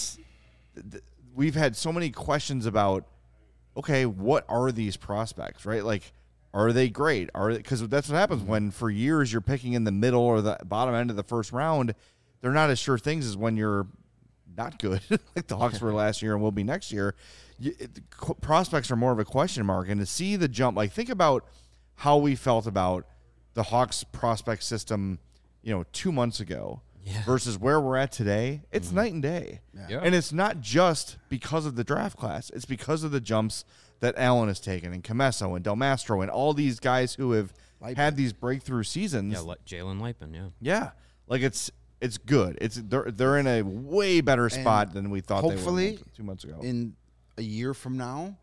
mean, we've had so many questions about, okay, what are these prospects, right? Like, are they great? Because that's what happens when for years you're picking in the middle or the bottom end of the first round. They're not as sure things as when you're not good, like the Hawks were last year and will be next year. Prospects are more of a question mark, and to see the jump, like think about how we felt about the Hawks prospect system, 2 months ago versus where we're at today. It's night and day. Yeah. And it's not just because of the draft class. It's because of the jumps that Allen has taken, and Commesso and Del Mastro and all these guys who have had these breakthrough seasons. Yeah, Jalen Lipin, Yeah. Like it's good. They're in a way better spot than we thought hopefully, they were 2 months ago. In a year from now,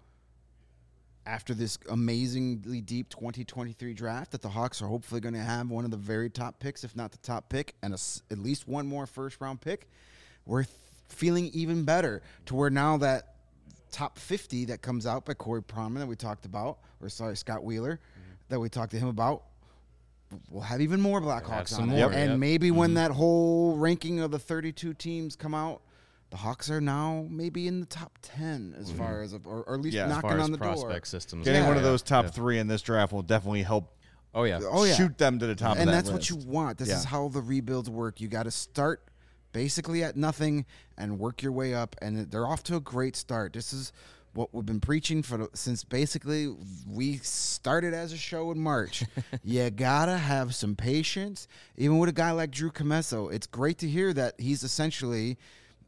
after this amazingly deep 2023 draft, that the Hawks are hopefully going to have one of the very top picks, if not the top pick, and at least one more first-round pick, we're feeling even better to where now that top 50 that comes out by Corey Pronman that we talked about, Scott Wheeler, that we talked to him about, we'll have even more Blackhawks on it. And maybe when that whole ranking of the 32 teams come out, the Hawks are now maybe in the top 10 as far as, or at least knocking on the prospect door. Systems. Getting one of those top three in this draft will definitely help. Oh yeah. Shoot them to the top of that And that's list. what you want. This is how the rebuilds work. You got to start basically at nothing and work your way up, and they're off to a great start. This is what we've been preaching since basically we started as a show in March. You gotta have some patience, even with a guy like Drew Commesso. It's great to hear that he's essentially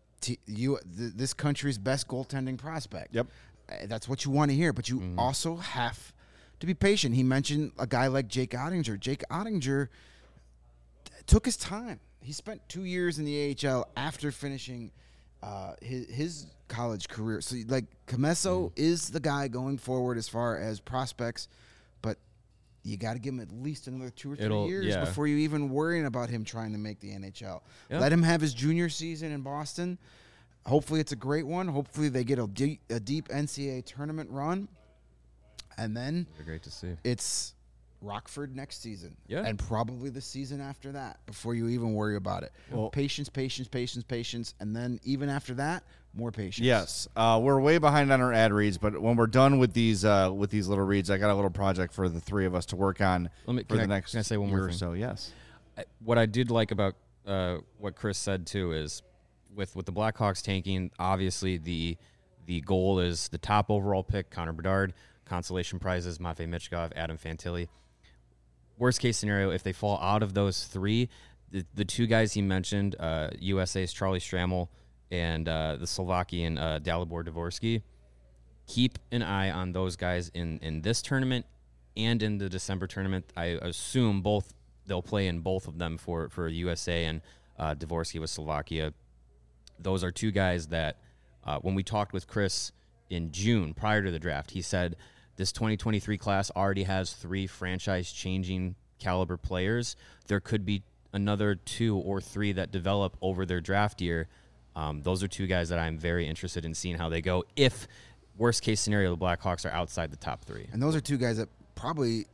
this country's best goaltending prospect. Yep, that's what you want to hear, but you also have to be patient. He mentioned a guy like Jake Ottinger. Jake Ottinger took his time. He spent 2 years in the AHL after finishing his college career. So, like, Commesso is the guy going forward as far as prospects, but you got to give him at least another 2 or 3 years before you even worrying about him trying to make the NHL. Yeah. Let him have his junior season in Boston. Hopefully it's a great one. Hopefully they get a deep NCAA tournament run. And then great to see. It's Rockford next season, and probably the season after that before you even worry about it. Well, patience, and then even after that, more patience. Yes, we're way behind on our ad reads, but when we're done with these little reads, I got a little project for the three of us to work on for the next can I say one year more or thing? so. Yes, what I did like about what Chris said too is with the Blackhawks tanking, obviously the goal is the top overall pick, Connor Bedard. Consolation prizes, Matvei Michkov, Adam Fantilli. Worst case scenario, if they fall out of those three, the two guys he mentioned, USA's Charlie Stramel and the Slovakian Dalibor Dvorsky, keep an eye on those guys in this tournament and in the December tournament. I assume they'll play in both of them for USA and Dvorsky with Slovakia. Those are two guys that when we talked with Chris in June prior to the draft, he said this 2023 class already has 3 franchise-changing caliber players. There could be another 2 or 3 that develop over their draft year. Those are two guys that I'm very interested in seeing how they go if, worst-case scenario, the Blackhawks are outside the top 3. And those are two guys that probably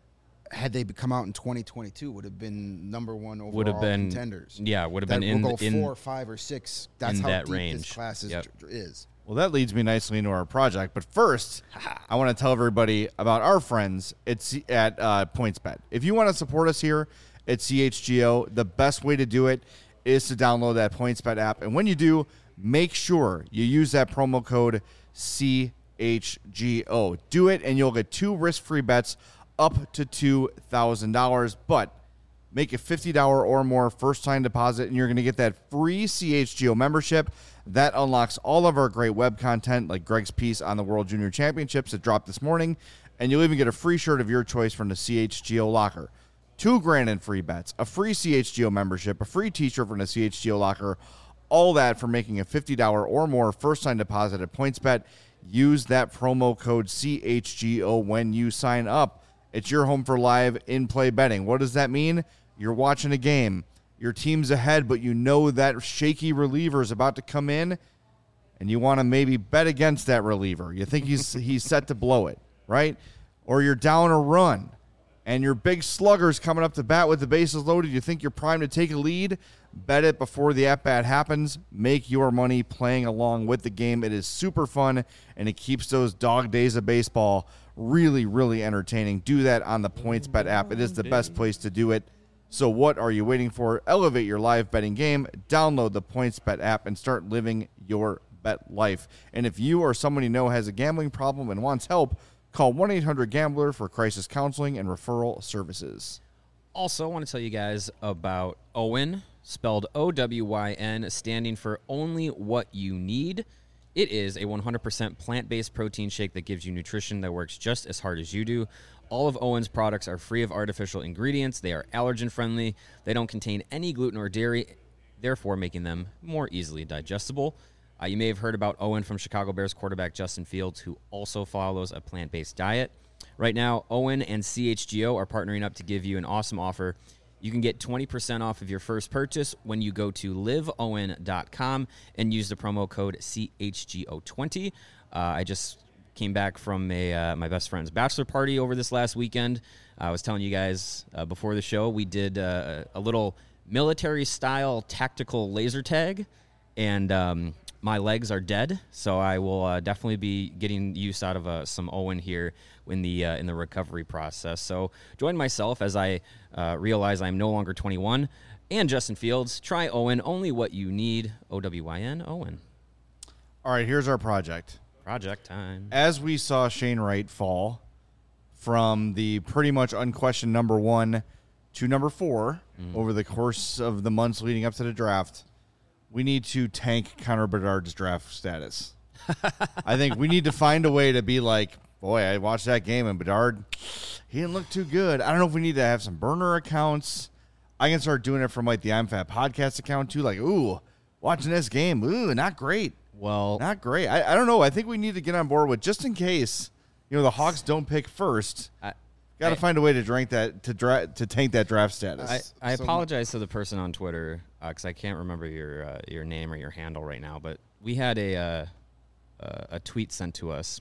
had they come out in 2022, would have been number one overall Would have been contenders. Yeah, would have That been will go in 4, 5, or 6. That's in how that deep range. this class is. Well, that leads me nicely into our project. But first, I want to tell everybody about our friends at PointsBet. If you want to support us here at CHGO, the best way to do it is to download that PointsBet app. And when you do, make sure you use that promo code CHGO. Do it, and you'll get 2 risk-free bets up to $2,000. But make a $50 or more first-time deposit, and you're going to get that free CHGO membership. That unlocks all of our great web content, like Greg's piece on the World Junior Championships that dropped this morning, and you'll even get a free shirt of your choice from the CHGO locker. $2,000 in free bets, a free CHGO membership, a free t-shirt from the CHGO locker, all that for making a $50 or more first-time deposit at PointsBet. Use that promo code CHGO when you sign up. It's your home for live in-play betting. What does that mean? You're watching a game. Your team's ahead, but you know that shaky reliever is about to come in, and you want to maybe bet against that reliever. You think he's set to blow it, right? Or you're down a run, and your big slugger's coming up to bat with the bases loaded. You think you're primed to take a lead? Bet it before the at-bat happens. Make your money playing along with the game. It is super fun, and it keeps those dog days of baseball really, really entertaining. Do that on the PointsBet app. It is the best place to do it. So what are you waiting for? Elevate your live betting game. Download the PointsBet app and start living your bet life. And if you or someone you know has a gambling problem and wants help, call 1-800-GAMBLER for crisis counseling and referral services. Also, I want to tell you guys about OWYN, spelled OWYN, standing for Only What You Need. It is a 100% plant-based protein shake that gives you nutrition that works just as hard as you do. All of OWYN's products are free of artificial ingredients. They are allergen-friendly. They don't contain any gluten or dairy, therefore making them more easily digestible. You may have heard about OWYN from Chicago Bears quarterback Justin Fields, who also follows a plant-based diet. Right now, OWYN and CHGO are partnering up to give you an awesome offer. You can get 20% off of your first purchase when you go to liveowyn.com and use the promo code CHGO20. I just came back from my best friend's bachelor party over this last weekend. I was telling you guys before the show, we did a little military-style tactical laser tag, and my legs are dead, so I will definitely be getting use out of some OWYN here in the recovery process. So join myself as I realize I'm no longer 21, and Justin Fields. Try OWYN, only what you need. OWYN, OWYN. All right, here's our project. Project time. As we saw Shane Wright fall from the pretty much unquestioned number 1 to number 4 over the course of the months leading up to the draft, we need to tank Connor Bedard's draft status. I think we need to find a way to be like, boy, I watched that game and Bedard, he didn't look too good. I don't know if we need to have some burner accounts. I can start doing it from like the I'm Fat podcast account too. Like, ooh, watching this game, ooh, not great. Well, Not great. I don't know. I think we need to get on board with, just in case, the Hawks don't pick first. Got to find a way to tank that draft status. I apologize to the person on Twitter because I can't remember your name or your handle right now. But we had a tweet sent to us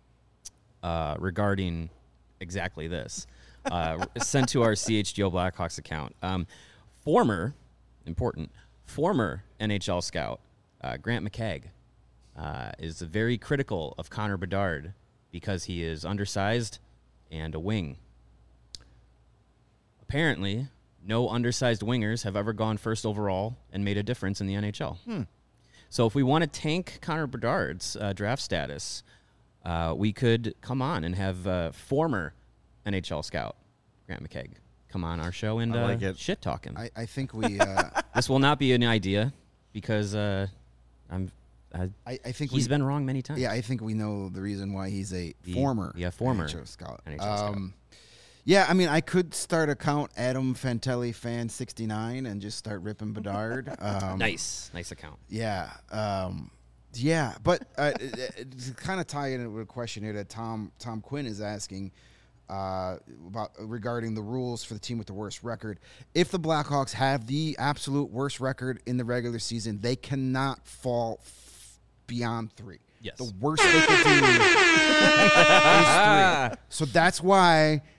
regarding exactly this, sent to our CHGO Blackhawks account. Former NHL scout Grant McKegg is very critical of Connor Bedard because he is undersized and a wing. Apparently, no undersized wingers have ever gone first overall and made a difference in the NHL. So if we want to tank Connor Bedard's draft status, we could come on and have former NHL scout Grant McKegg come on our show and like shit talk him. I think we. This will not be an idea because I think he's been wrong many times. Yeah, I think we know the reason why he's a former NHL scout. Yeah, I mean, I could start account Adam Fantelli fan 69 and just start ripping Bedard. Nice account. Yeah, but to kind of tie in with a question here that Tom Quinn is asking about regarding the rules for the team with the worst record. If the Blackhawks have the absolute worst record in the regular season, they cannot fall beyond 3. Yes. The worst they could do is 3. So that's why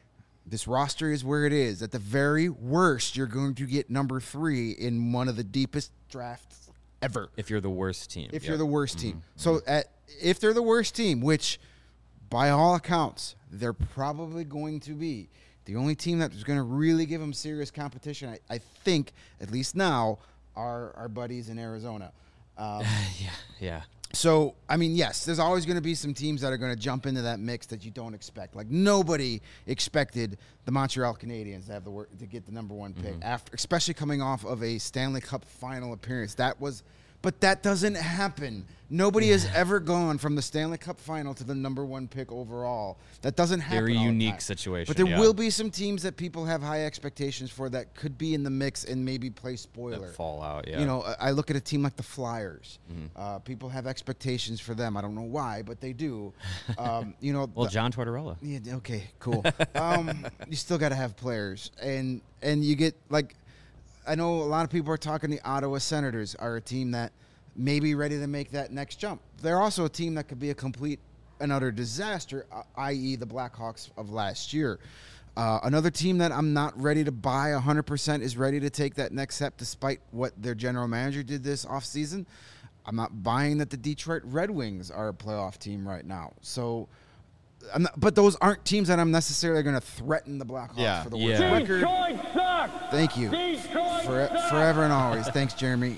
This roster is where it is. At the very worst, you're going to get number 3 in one of the deepest drafts ever. If you're the worst team. If you're the worst team. So if they're the worst team, which by all accounts, they're probably going to be, the only team that's going to really give them serious competition, I think, at least now, are our buddies in Arizona. Yeah. So, I mean, yes, there's always going to be some teams that are going to jump into that mix that you don't expect. Like, nobody expected the Montreal Canadiens to have to get the number 1 pick, after, especially coming off of a Stanley Cup final appearance. But that doesn't happen. Nobody has ever gone from the Stanley Cup final to the number 1 pick overall. That doesn't happen. Very all the unique time. situation. But there will be some teams that people have high expectations for that could be in the mix and maybe play spoiler. That fall out, yeah. You know, I look at a team like the Flyers. People have expectations for them. I don't know why, but they do. You know, well, John Tortorella. Yeah. Okay. Cool. You still got to have players, and you get like, I know a lot of people are talking. The Ottawa Senators are a team that may be ready to make that next jump. They're also a team that could be a complete and utter disaster, i.e. the Blackhawks of last year. Another team that I'm not ready to buy 100% is ready to take that next step despite what their general manager did this offseason. I'm not buying that the Detroit Red Wings are a playoff team right now. So, but those aren't teams that I'm necessarily going to threaten the Blackhawks for the worst record. Thank you. Forever and always. Thanks, Jeremy.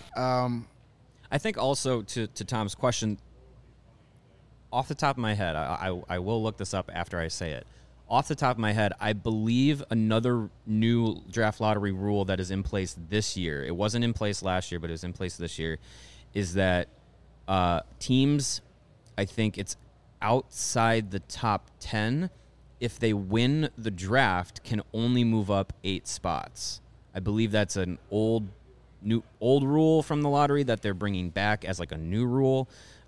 I think also to Tom's question, off the top of my head, I will look this up after I say it. Off the top of my head, I believe another new draft lottery rule that is in place this year, it wasn't in place last year, but it was in place this year, is that teams, I think it's outside the top 10, if they win the draft, can only move up 8 spots. I believe that's an old rule from the lottery that they're bringing back as like a new rule.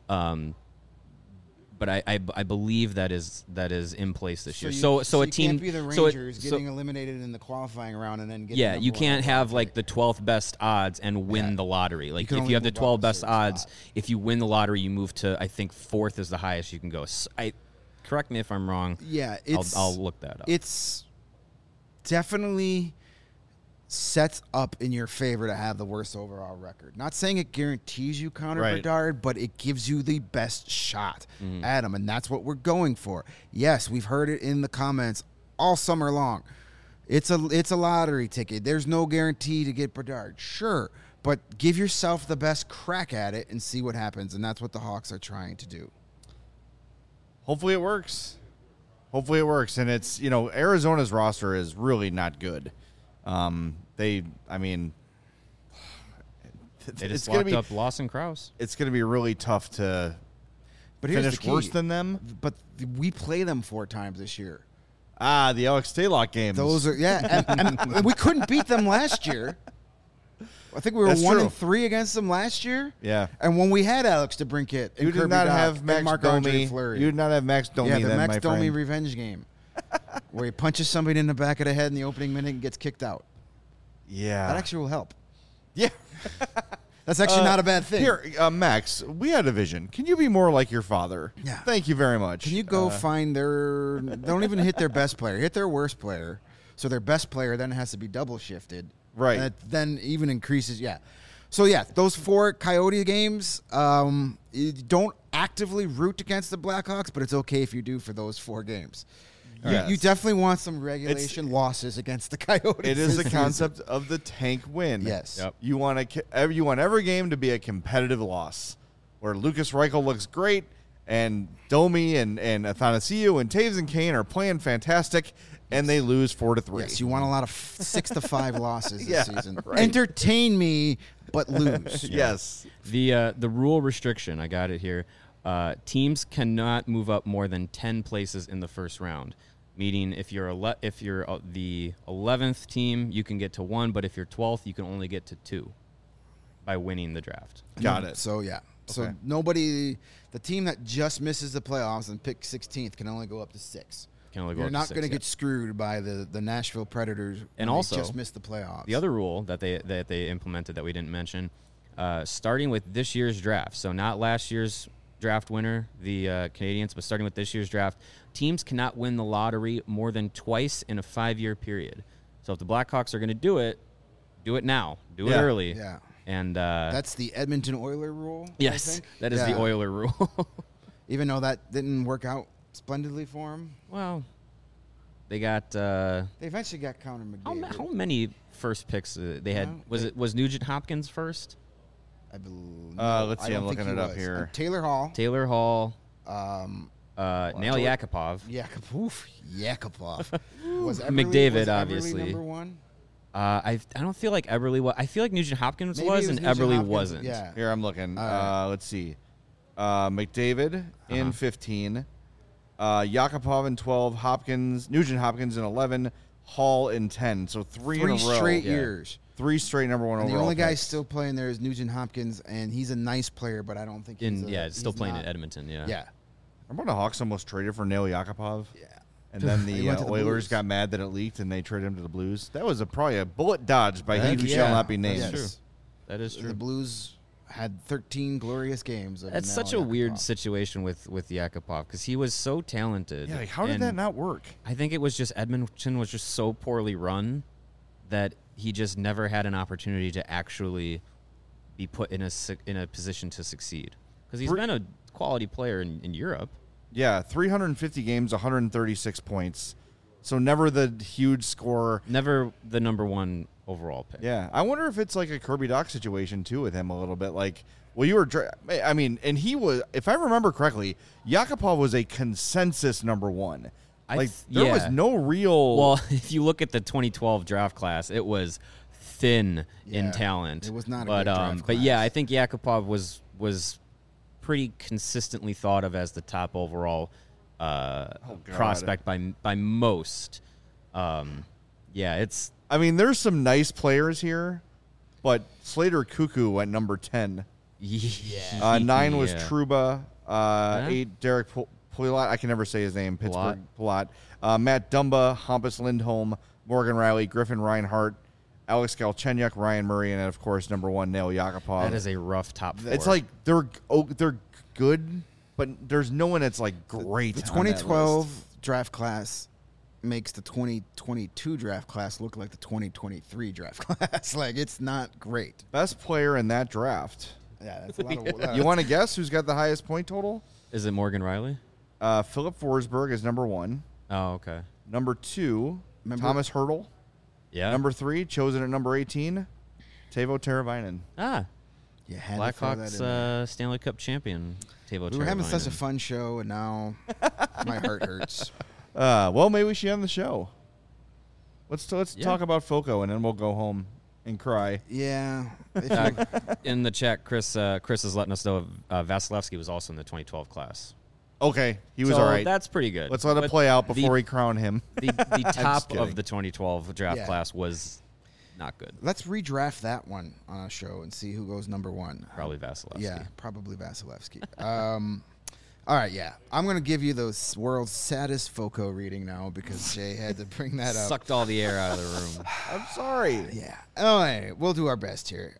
But I believe that is in place this year. So a team can't be the Rangers getting eliminated in the qualifying round and then getting you can't have like the 12th best odds and win the lottery. Like if you have the 12 best odds, if you win the lottery, you move to I think 4th is the highest you can go. Correct me if I'm wrong. Yeah, I'll look that up. It's definitely sets up in your favor to have the worst overall record. Not saying it guarantees you Connor Bedard, but it gives you the best shot at him, and that's what we're going for. Yes, we've heard it in the comments all summer long. It's a lottery ticket. There's no guarantee to get Bedard. Sure, but give yourself the best crack at it and see what happens, and that's what the Hawks are trying to do. Hopefully it works. And it's, Arizona's roster is really not good. They just locked up Lawson Krause. It's going to be really tough to finish worse than them. But we play them 4 times this year. The Alex Stalock games. Those are, and we couldn't beat them last year. I think we were 1-3 against them last year. Yeah. And when we had Alex DeBrincat and you did not have Max Domi. You did not have Max Domi. Yeah, the Max Domi friend. revenge game, where he punches somebody in the back of the head in the opening minute and gets kicked out. Yeah, that actually will help. Yeah, that's actually not a bad thing. Here, Max, we had a vision. Can you be more like your father? Yeah. Thank you very much. Can you go find their? Don't even hit their best player. Hit their worst player. So their best player then has to be double shifted. Right. That then even increases. Yeah. So yeah, those 4 Coyote games. You don't actively root against the Blackhawks, but it's okay if you do for those 4 games. Yes. You definitely want some regulation losses against the Coyotes. It is the concept of the tank win. Yes. Yep. You want every game to be a competitive loss, where Lucas Reichel looks great, and Domi and Athanasiou and Taves and Kane are playing fantastic, and they lose 4-3. Yes, you want a lot of 6-5 losses this season. Right. Entertain me, but lose. Yes. The rule restriction, I got it here. Teams cannot move up more than 10 places in the first round. Meaning, if you're the 11th team, you can get to 1, but if you're 12th, you can only get to 2 by winning the draft. Got it. So yeah. So Okay. the team that just misses the playoffs and pick 16th can only go up to 6. You're not going to get screwed by the Nashville Predators and when also they just missed the playoffs. The other rule that they implemented that we didn't mention, starting with this year's draft, so not last year's draft winner, the Canadiens, but starting with this year's draft, teams cannot win the lottery more than twice in a 5-year period. So if the Blackhawks are going to do it now. Do it early. Yeah. And that's the Edmonton Oiler rule. Yes, I think? that is the Oiler rule. Even though that didn't work out splendidly for him. Well, they got. They eventually got Connor McDavid. How many first picks they had? Was Nugent Hopkins first? I believe. Let's see. I'm looking it up here. Taylor Hall. Nail Yakupov. Yakupov. Was McDavid, obviously. Number one? I don't feel like Eberle was. I feel like Nugent Hopkins Maybe was, it and Nugent Eberle Hopkins. wasn't. Yeah. Here, I'm looking. Let's see. McDavid in 15. Yakupov in 12. Nugent Hopkins in 11. Hall in 10. So three in a row. Straight years. 3 straight number one And overall the only guy picks. still playing there is Nugent Hopkins, and he's a nice player, but I don't think he's Still he's playing not- in Edmonton. Yeah. Yeah. Remember when the Hawks almost traded for Nail Yakupov? Yeah. And then He the went to the Oilers Blues. got mad that it leaked, and they traded him to the Blues. That was probably a bullet dodged by he Heck who yeah. shall not be named. Yes. True. That is true. The Blues had 13 glorious games. Of That's Nail such a weird Yakupov. situation with Yakupov because he was so talented. Yeah, like, how did and that not work? I think it was just Edmonton was just so poorly run that he just never had an opportunity to actually be put in a position to succeed because he's been a quality player in Europe. Yeah, 350 games, 136 points. So never the huge scorer. Never the number one overall pick. Yeah, I wonder if it's like a Kirby Dach situation too with him a little bit. Like, well, and he was, if I remember correctly, Yakupov was a consensus number one. There was no real. Well, if you look at the 2012 draft class, it was thin in Yeah, talent. it was not a but good draft but yeah, class. I think Yakupov was pretty consistently thought of as the top overall prospect by most. It's. I mean, there's some nice players here, but Slater Cuckoo went number 10. 9 was Trouba. 8 Derek Pouliot. I can never say his name. Pittsburgh Pouliot. Matt Dumba, Hampus Lindholm, Morgan Riley, Griffin Reinhart, Alex Galchenyuk, Ryan Murray, and then, of course, number 1, Nail Yakupov. That is a rough top 4. It's like they're good, but there's no one that's like great. The on that 2012 list. draft class makes the 2022 draft class look like the 2023 draft class. Like, it's not great. Best player in that draft. Yeah, that's a lot of. You want to guess who's got the highest point total? Is it Morgan Riley? Philip Forsberg is number 1. Oh, okay. Number 2, Thomas Hertl. Yeah. Number 3, chosen at number 18, Teuvo Teravainen. You had to throw that in there. Blackhawks Stanley Cup champion. Teuvo We were having such a Teravainen. fun show, and now my heart hurts. Well, maybe we should end the show. Let's talk about Foco, and then we'll go home and cry. Yeah. In the chat, Chris is letting us know Vasilevsky was also in the 2012 class. Okay, he was So all right. That's pretty good. Let's let it But play out before we crown him. the top kidding. of the 2012 draft Yeah. class was not good. Let's redraft that one on a show and see who goes number 1. Probably Vasilevsky. Yeah, probably Vasilevsky. All right, yeah. I'm going to give you the world's saddest Foco reading now because Jay had to bring that up. Sucked all the air out of the room. I'm sorry. Yeah. All right, we'll do our best here.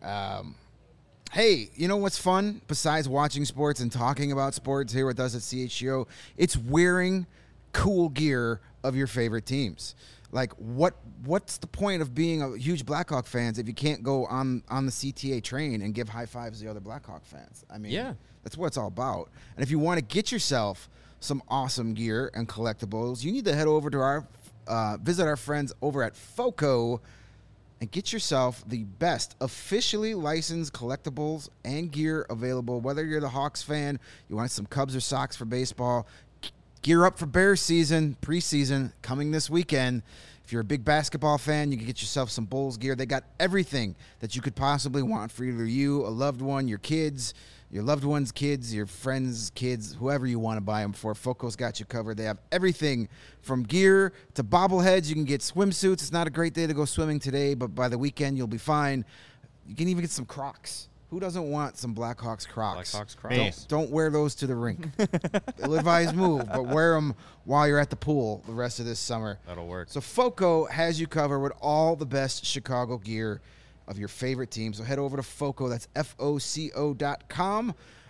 Hey, you know what's fun besides watching sports and talking about sports here with us at CHGO? It's wearing cool gear of your favorite teams. Like, what's the point of being a huge Blackhawk fans if you can't go on the CTA train and give high fives to the other Blackhawk fans? I mean, Yeah. that's what it's all about. And if you want to get yourself some awesome gear and collectibles, you need to head over to visit our friends over at Foco and get yourself the best officially licensed collectibles and gear available. Whether you're the Hawks fan, you want some Cubs or Sox for baseball, gear up for Bears season, preseason, coming this weekend. If you're a big basketball fan, you can get yourself some Bulls gear. They got everything that you could possibly want for either you, a loved one, your kids, your loved one's kids, your friends' kids, whoever you want to buy them for. Foco's got you covered. They have everything from gear to bobbleheads. You can get swimsuits. It's not a great day to go swimming today, but by the weekend, you'll be fine. You can even get some Crocs. Who doesn't want some Blackhawks Crocs? Blackhawks Crocs. Don't wear those to the rink. Ill-advised move, but wear them while you're at the pool the rest of this summer. That'll work. So Foco has you covered with all the best Chicago gear of your favorite team. So head over to Foco. That's FOCO.com.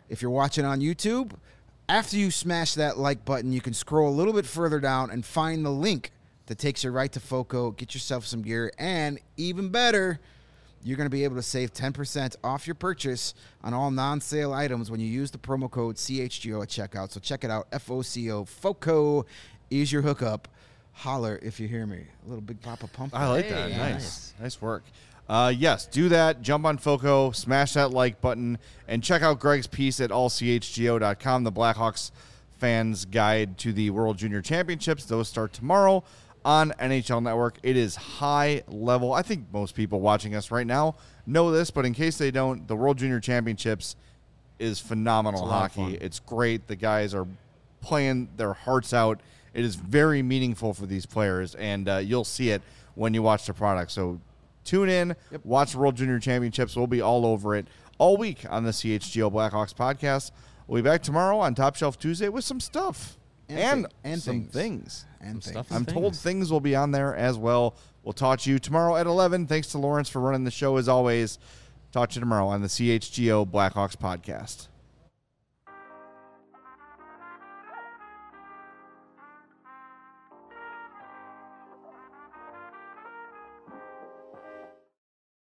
If you're watching on YouTube, after you smash that like button, you can scroll a little bit further down and find the link that takes you right to FOCO. Get yourself some gear, and even better, you're going to be able to save 10% off your purchase on all non-sale items when you use the promo code CHGO at checkout. So check it out, FOCO. FOCO is your hookup. Holler if you hear me. A little Big Papa Pump. I like that. Nice work. Yes, do that. Jump on FOCO, smash that like button, and check out Greg's piece at allchgo.com, the Blackhawks fans' guide to the World Junior Championships. Those start tomorrow on NHL Network. It is high level. I think most people watching us right now know this, but in case they don't, the World Junior Championships is phenomenal hockey. It's great. The guys are playing their hearts out. It is very meaningful for these players, and you'll see it when you watch the product. So tune in, watch the World Junior Championships. We'll be all over it all week on the CHGO Blackhawks podcast. We'll be back tomorrow on Top Shelf Tuesday with some stuff and some things. I'm told things will be on there as well. We'll talk to you tomorrow at 11. Thanks to Lawrence for running the show as always. Talk to you tomorrow on the CHGO Blackhawks podcast.